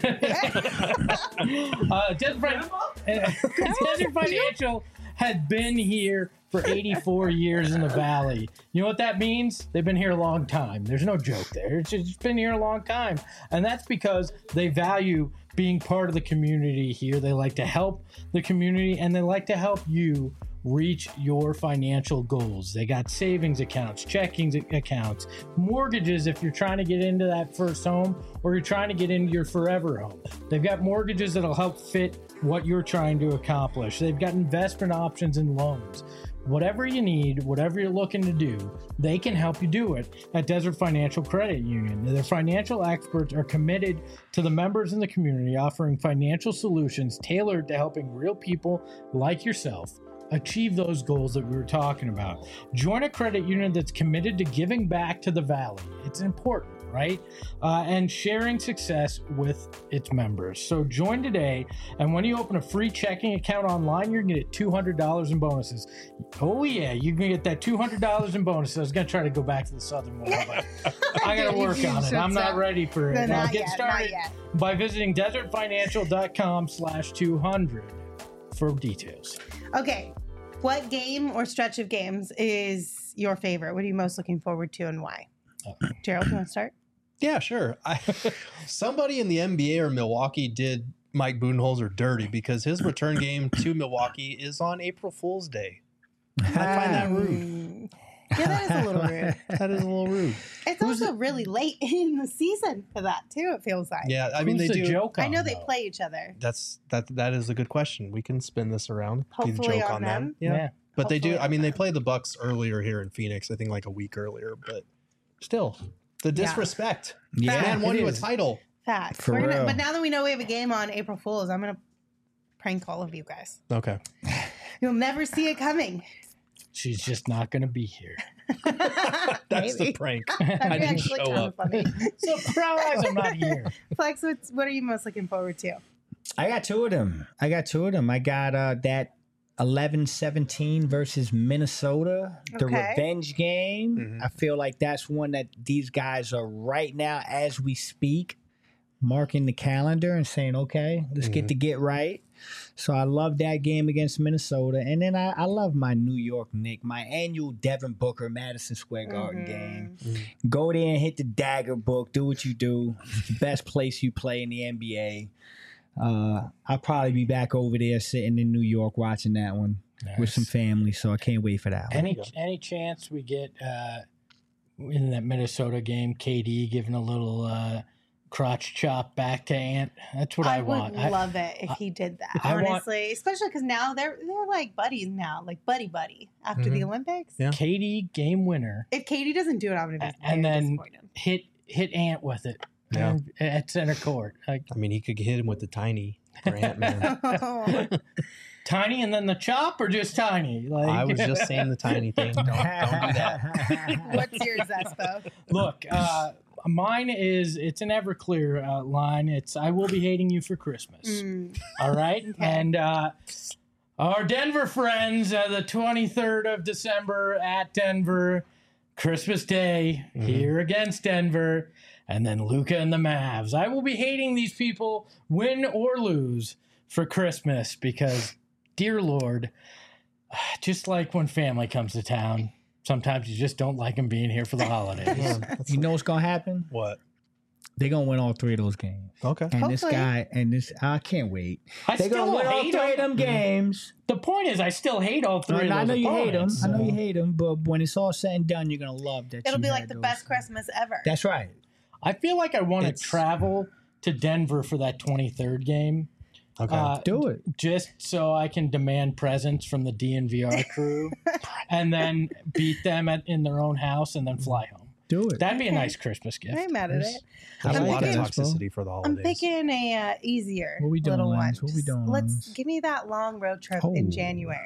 Desert Financial had been here for 84 years in the Valley. You know what that means? They've been here a long time. There's no joke there. It's just been here a long time. And that's because they value being part of the community here. They like to help the community, and they like to help you reach your financial goals. They got savings accounts, checking accounts, mortgages if you're trying to get into that first home or you're trying to get into your forever home. They've got mortgages that'll help fit what you're trying to accomplish. They've got investment options and loans. Whatever you need, whatever you're looking to do, they can help you do it at Desert Financial Credit Union. Their financial experts are committed to the members in the community, offering financial solutions tailored to helping real people like yourself achieve those goals that we were talking about. Join a credit union that's committed to giving back to the Valley. It's important, right? And sharing success with its members. So join today, and when you open a free checking account online, you're going to get $200 in bonuses. Oh yeah, you can get that $200 in bonuses. I was going to try to go back to the Southern one, but I got to work on it. I'm not ready for it. Now get started by visiting desertfinancial.com/200 for details. Okay, what game or stretch of games is your favorite? What are you most looking forward to, and why? Gerald, you want to start? Yeah, sure. Somebody in the NBA or Milwaukee did Mike Budenholzer dirty because his return game to Milwaukee is on April Fool's Day. I find that rude. Yeah, that is a little rude. That is a little rude. It's also really late in the season for that too. It feels like. Yeah, I mean Who's they the do. joke I know on, they though? play each other. That is a good question. We can spin this around. Be the Hopefully joke on them. Yeah. But they do. Hopefully I mean, on they them. play the Bucks earlier here in Phoenix. I think like a week earlier. But still, the disrespect. Yeah, Man won it you a is. title. Facts. For real. But now that we know we have a game on April Fool's, I'm gonna prank all of you guys. Okay. You'll never see it coming. She's just not going to be here. That's Maybe. the prank. That'd I be didn't actually show kind up. of funny. Surprise! I'm not here. Flex, what are you most looking forward to? I got two of them. I got that 11-17 versus Minnesota, the Okay. revenge game. Mhm. I feel like that's one that these guys are right now as we speak marking the calendar and saying, okay, let's get right. So I love that game against Minnesota. And then I love my New York Knicks, my annual Devin Booker Madison Square Garden game. Go there and hit the dagger book. Do what you do. It's the best place you play in the NBA. I'll probably be back over there sitting in New York watching that one with some family. So I can't wait for that one. Any chance we get in that Minnesota game, KD giving a little crotch chop back to Ant? That's what I want. I would love it if he did that, honestly. Especially because now they're like buddies now, like buddy after the Olympics. Yeah. KD game winner, If Katie doesn't do it, I'm gonna be and very then disappointed. hit Ant with it. Yeah. At center court. Like, I mean, he could hit him with the tiny for Ant-Man. tiny and then the chop, or just tiny? Like, I was just saying the tiny thing. Don't do that. What's yours, Espo? Look, mine is, it's an Everclear line. It's I will be hating you for Christmas. All right. Okay. And our Denver friends, the 23rd of December at Denver, Christmas Day, here against Denver, and then Luka and the Mavs. I will be hating these people, win or lose, for Christmas because, dear Lord, just like when family comes to town, sometimes you just don't like them being here for the holidays. You know what's going to happen? What? They're going to win all three of those games. Okay. And this Hopefully. guy, I can't wait. I They're going to still win all hate three of them them. games. The point is, I still hate all three of those I know you hate them. opponents, I know so- you hate them, but when it's all said and done, you're going to love that. It'll you be had like the those. best Christmas ever. That's right. I feel like I want to It's- travel to Denver for that 23rd game. Okay. Do it. Just so I can demand presents from the DNVR crew and then beat them in their own house and then fly home. Do it. That'd be a Okay. nice Christmas gift. I ain't mad at it. There's a I'm lot of picking- toxicity for the I'm holidays. picking a easier What we doing, little one. Lance? What we Just doing, Let's Lance? give me that long road trip Oh. in January.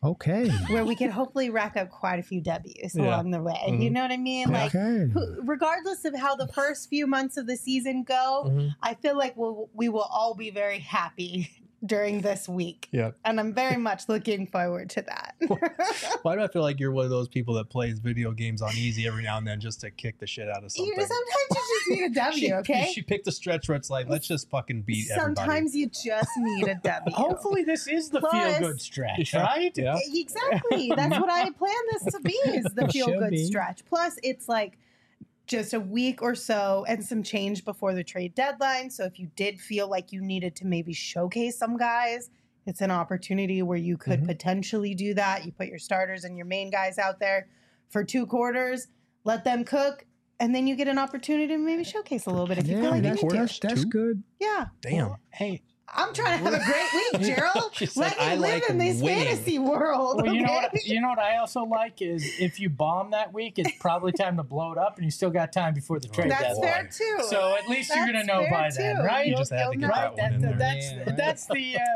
Okay. where we could hopefully rack up quite a few W's along the way. You know what I mean? Like, regardless of how the first few months of the season go, I feel like we will all be very happy during this week. Yep. And I'm very much looking forward to that. Why do I feel like you're one of those people that plays video games on easy every now and then just to kick the shit out of something? Sometimes you just need a W, okay? She picked a stretch where it's like, let's just fucking beat everybody. Sometimes you just need a W. Hopefully this is the feel-good stretch, right? Yeah. Exactly. That's what I plan this to be, is the feel-good be. stretch. Plus, it's like just a week or so and some change before the trade deadline. So if you did feel like you needed to maybe showcase some guys, it's an opportunity where you could potentially do that. You put your starters and your main guys out there for 2 quarters, let them cook, and then you get an opportunity to maybe showcase a little bit if you feel like you need to. That's good. Yeah. Damn. Hey, I'm trying to have a great week, Gerald. Let me live in this fantasy world. well, Okay? you know what I also like is if you bomb that week, it's probably time to blow it up, and you still got time before the trade That's deadline. fair too. So at least you're gonna know That's by fair, then, too. right? You just had to get that one in there. That's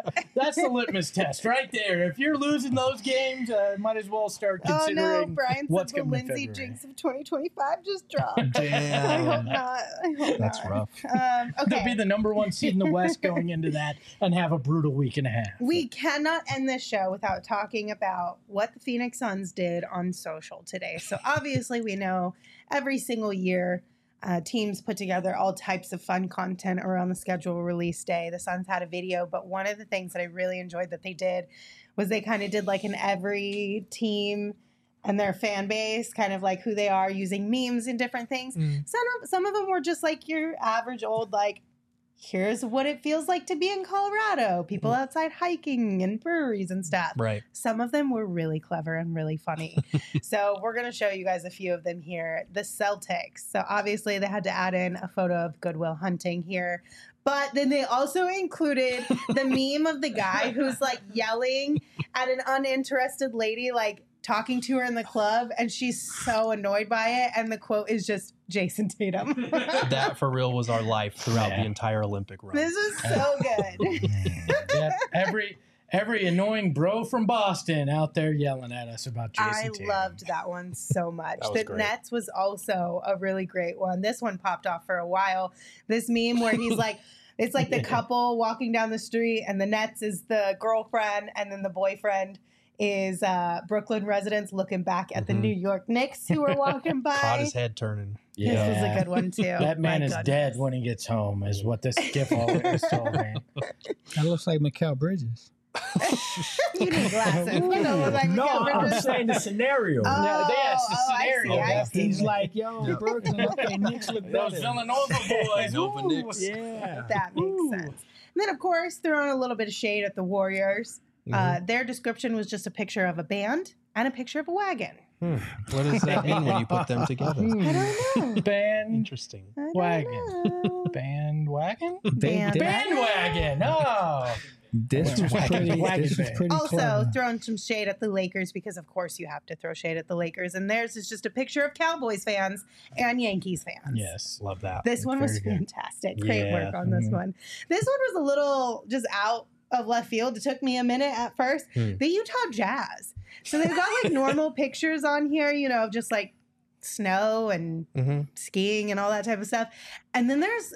the litmus test right there. If you're losing those games, might as well start considering Oh no, Brian what's said the coming in Lindsay February. jinx of 2025 just dropped. I hope Damn. not. I hope That's not. rough. They'll Okay. be the number 1 seed in the West going into that and have a brutal week and a half. We cannot end this show without talking about what the Phoenix Suns did on social today. So obviously we know every single year teams put together all types of fun content around the schedule release day. The Suns had a video, but one of the things that I really enjoyed that they did was they kind of did like an every team and their fan base, kind of like who they are, using memes and different things. Some of them were just like your average old, like, here's what it feels like to be in Colorado. People outside hiking and breweries and stuff. Right. Some of them were really clever and really funny. So we're going to show you guys a few of them here. The Celtics. So obviously they had to add in a photo of Goodwill Hunting here. But then they also included the meme of the guy who's like yelling at an uninterested lady, like talking to her in the club, and she's so annoyed by it. And the quote is just Jason Tatum. That for real was our life throughout the entire Olympic run. This is so good. Yeah, every annoying bro from Boston out there yelling at us about Jason I Tatum. loved that one so much. That was The great. Nets was also a really great one. This one popped off for a while. This meme where he's like, it's like the couple walking down the street, and the Nets is the girlfriend, and then the boyfriend is Brooklyn residents looking back at the New York Knicks who are walking by. Caught his head turning. This was a good one too. That man My is goodness. dead when he gets home, is what this GIF always told me. That looks like Mikal Bridges. You need glasses. You don't look like No, Mikal I'm Bridges. saying the scenario. Oh, yes, the I see, scenario, I see. He's like, yo, Brooklyn, okay, Knicks look Those better. Villanova boys. Nova ooh. Knicks. Yeah. That makes sense. And then, of course, throwing a little bit of shade at the Warriors. Their description was just a picture of a band and a picture of a wagon. What does that mean when you put them together? I don't know. Interesting. I don't Wagon. know. Bandwagon? Band. Bandwagon. Oh. This was pretty Also, clever. throwing some shade at the Lakers because, of course, you have to throw shade at the Lakers. And theirs is just a picture of Cowboys fans and Yankees fans. Yes. Love that. This one was Very good. fantastic. Great Yeah. work on this one. This one was a little just out of left field. It took me a minute at first. The Utah Jazz. So they've got like normal pictures on here, you know, of just like snow and skiing and all that type of stuff. And then there's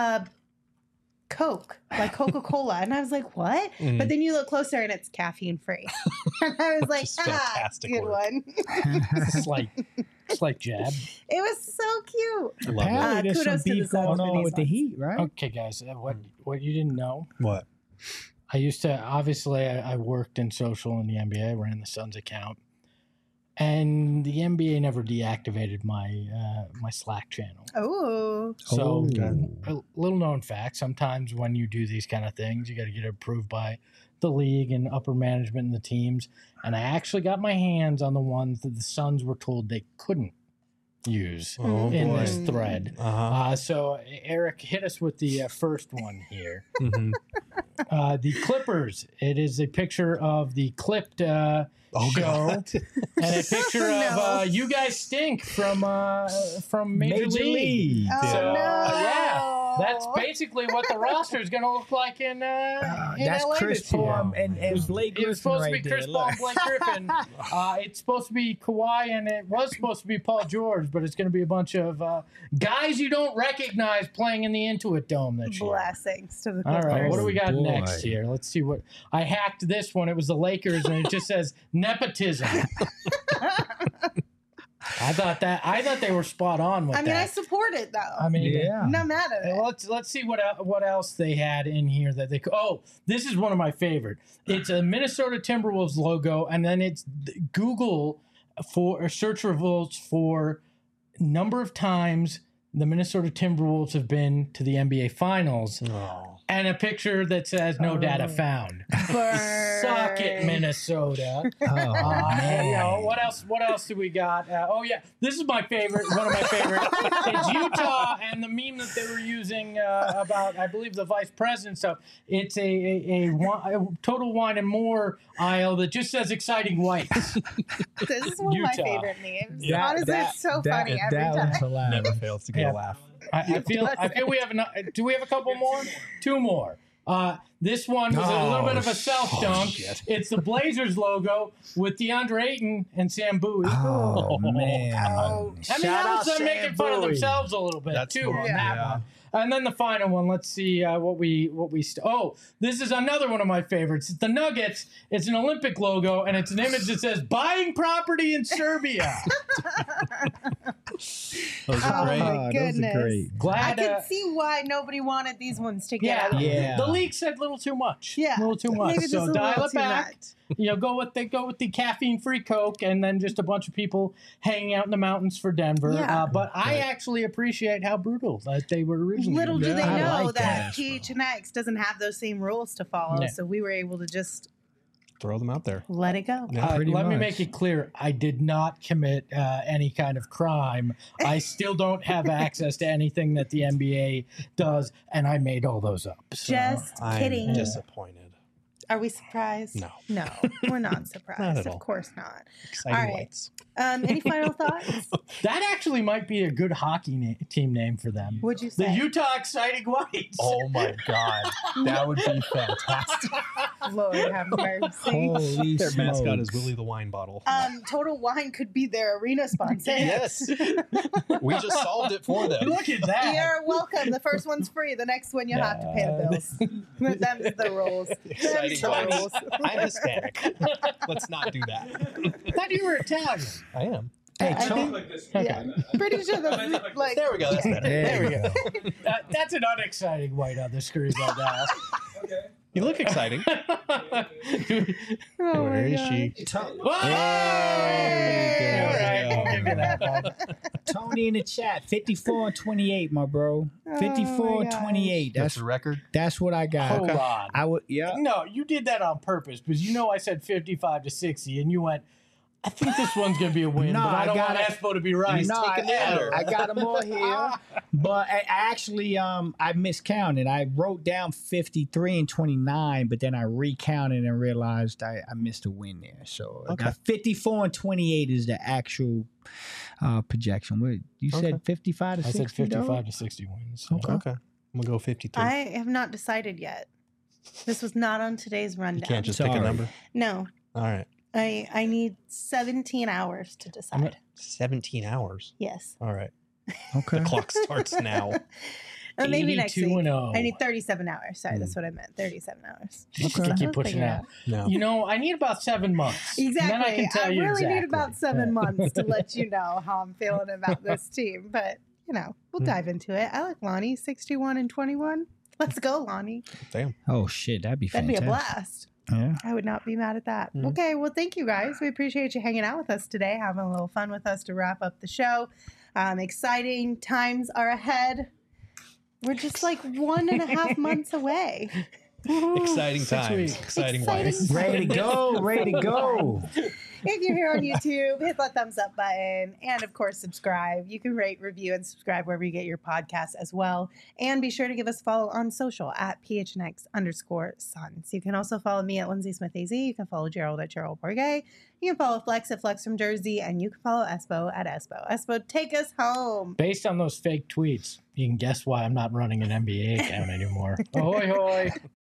Coke, like Coca-Cola. And I was like, what? But then you look closer and it's caffeine free. And I was like, Just fantastic good work. one. It's like jab. It was so cute. Love it. Apparently, there's some kudos to the beef Suns going for on these with the ones. Heat, right? Okay, guys. What you didn't know? What? I used to I worked in social in the NBA. I ran the Suns account, and the NBA never deactivated my my Slack channel. Oh. So, Oh. a little known fact: sometimes when you do these kind of things, you got to get it approved by the league and upper management and the teams. And I actually got my hands on the ones that the Suns were told they couldn't use Oh, in boy. this thread. So Eric, hit us with the first one here. The Clippers. It is a picture of the clipped show God. and a picture No. of You Guys Stink from Major League. Oh, So, no. yeah. That's basically what the roster is going to look like in That's LA Chris this year. Paul and Blake Griffin. It's supposed right to be there. Chris Paul and Blake Griffin. It's supposed to be Kawhi, and it was supposed to be Paul George, but it's going to be a bunch of guys you don't recognize playing in the Intuit Dome this year. Blessings to the All Clippers. right, what do we got boy. next here? Let's see what I hacked this one. It was the Lakers, and it just says nepotism. I thought they were spot on with I mean, that. I support it though. I mean, Yeah. I'm not mad at it. let's see what else they had in here that they. Oh, this is one of my favorite. It's a Minnesota Timberwolves logo, and then it's Google for search results for number of times the Minnesota Timberwolves have been to the NBA Finals, and a picture that says no data found. Burn. Suck it, Minnesota. Oh, man. You know, what else do we got? Oh yeah, this is my favorite. One of my favorite. It's Utah and the meme that they were using about, I believe, the vice president stuff. It's a Total Wine and More aisle that just says exciting whites. This is one of my Utah. favorite memes. Yeah, Honestly, it's so funny every that time. one's hilarious. Never fails to get a laugh. I feel we have enough. Do we have a couple more? Two more. This one was a little bit of a self dunk. Shit. It's the Blazers logo with DeAndre Ayton and Sam Bowie. Oh, man. Oh. I mean, Shout that out was them Sam making fun of Bowie. themselves a little bit That's too cool. on Yeah. that one. And then the final one. Let's see what we. Oh, this is another one of my favorites. It's the Nuggets. It's an Olympic logo, and it's an image that says "buying property in Serbia." Those are Oh great. my Those are goodness. great. I Glad. can see why nobody wanted these ones to Yeah, get. Yeah. The league said a little too much. Yeah. a little too much. Maybe just So a dial little it too back. much. Go with the caffeine-free Coke, and then just a bunch of people hanging out in the mountains for Denver. Yeah. But I actually appreciate how brutal that they were originally. Little do Yeah, they I know like that that. PHNX doesn't have those same rules to follow, Yeah. so we were able to just Throw them out there. let it go. Yeah. Pretty Let me much. make it clear: I did not commit any kind of crime. I still don't have access to anything that the NBA does, and I made all those up. So. Just I'm kidding. disappointed. Are we surprised? No. No, we're not surprised. Not at all. Of course not. Exciting All right. lights. Any final thoughts? That actually might be a good hockey team name for them. Would you The say? Utah Exciting Whites. Oh my God. That would be fantastic. Lord have mercy. Holy Their mascot is smokes. Willie the Wine Bottle. Total Wine could be their arena sponsor. Yes. We just solved it for them. Look at that. You're welcome. The first one's free. The next one you have to pay the bills. Them's the rules. Exciting Them's the Whites. rules. I'm Hispanic. Let's not do that. I thought you were Italian. I am. Hey, I think- Yeah, pretty sure that's like. There we go. That's better. There we go. That's an unexciting white on the screen right now. You look exciting. Oh Where my is God. she? Whoa! Hey, All there right, we I'll go. give you that one. Tony in the chat, 54 and 28, my bro. 54 and gosh. 28. That's That's the record. that's what I got. Hold on. I would, yeah. No, you did that on purpose because you know I said 55 to 60, and you went, I think this one's going to be a win, No, but I don't got want it. Espo to be right. No, taking the under. I got them all here, but I actually I miscounted. I wrote down 53 and 29, but then I recounted and realized I missed a win there. So I got 54 and 28 is the actual projection. What you said 55 to I 60? said 55 though? to 60 wins. So. Okay. I'm going to go 53. I have not decided yet. This was not on today's rundown. You can't just pick a Sorry. number. No, All right. I need 17 hours to decide. 17 hours. Yes. All right. Okay. The clock starts now. Maybe next 82 week. and 0. I need 37 hours. Sorry, that's what I meant. 37 hours. Okay. Keep pushing Figure it out. out. No. You know, I need about 7 months. Exactly. And then I can tell you really exactly. need about 7 months to let you know how I'm feeling about this team. But, we'll dive into it. I like Lonnie, 61 and 21. Let's go, Lonnie. Damn. Oh shit, that'd be That'd fantastic. be a blast. Yeah. I would not be mad at that. Okay, well, thank you guys. We appreciate you hanging out with us today, having a little fun with us to wrap up the show. Exciting times are ahead. We're just like 1.5 months away. Exciting 6 times. weeks. Exciting Exciting life. Ready to go. Ready to go. If you're here on YouTube, hit that thumbs up button. And of course, subscribe. You can rate, review, and subscribe wherever you get your podcasts as well. And be sure to give us a follow on social at PHNX_Suns. You can also follow me at Lindsay Smith AZ. You can follow Gerald at Gerald Borgay. You can follow Flex at Flex from Jersey. And you can follow Espo at Espo. Espo, take us home. Based on those fake tweets, you can guess why I'm not running an NBA account anymore. Ahoy, hoy.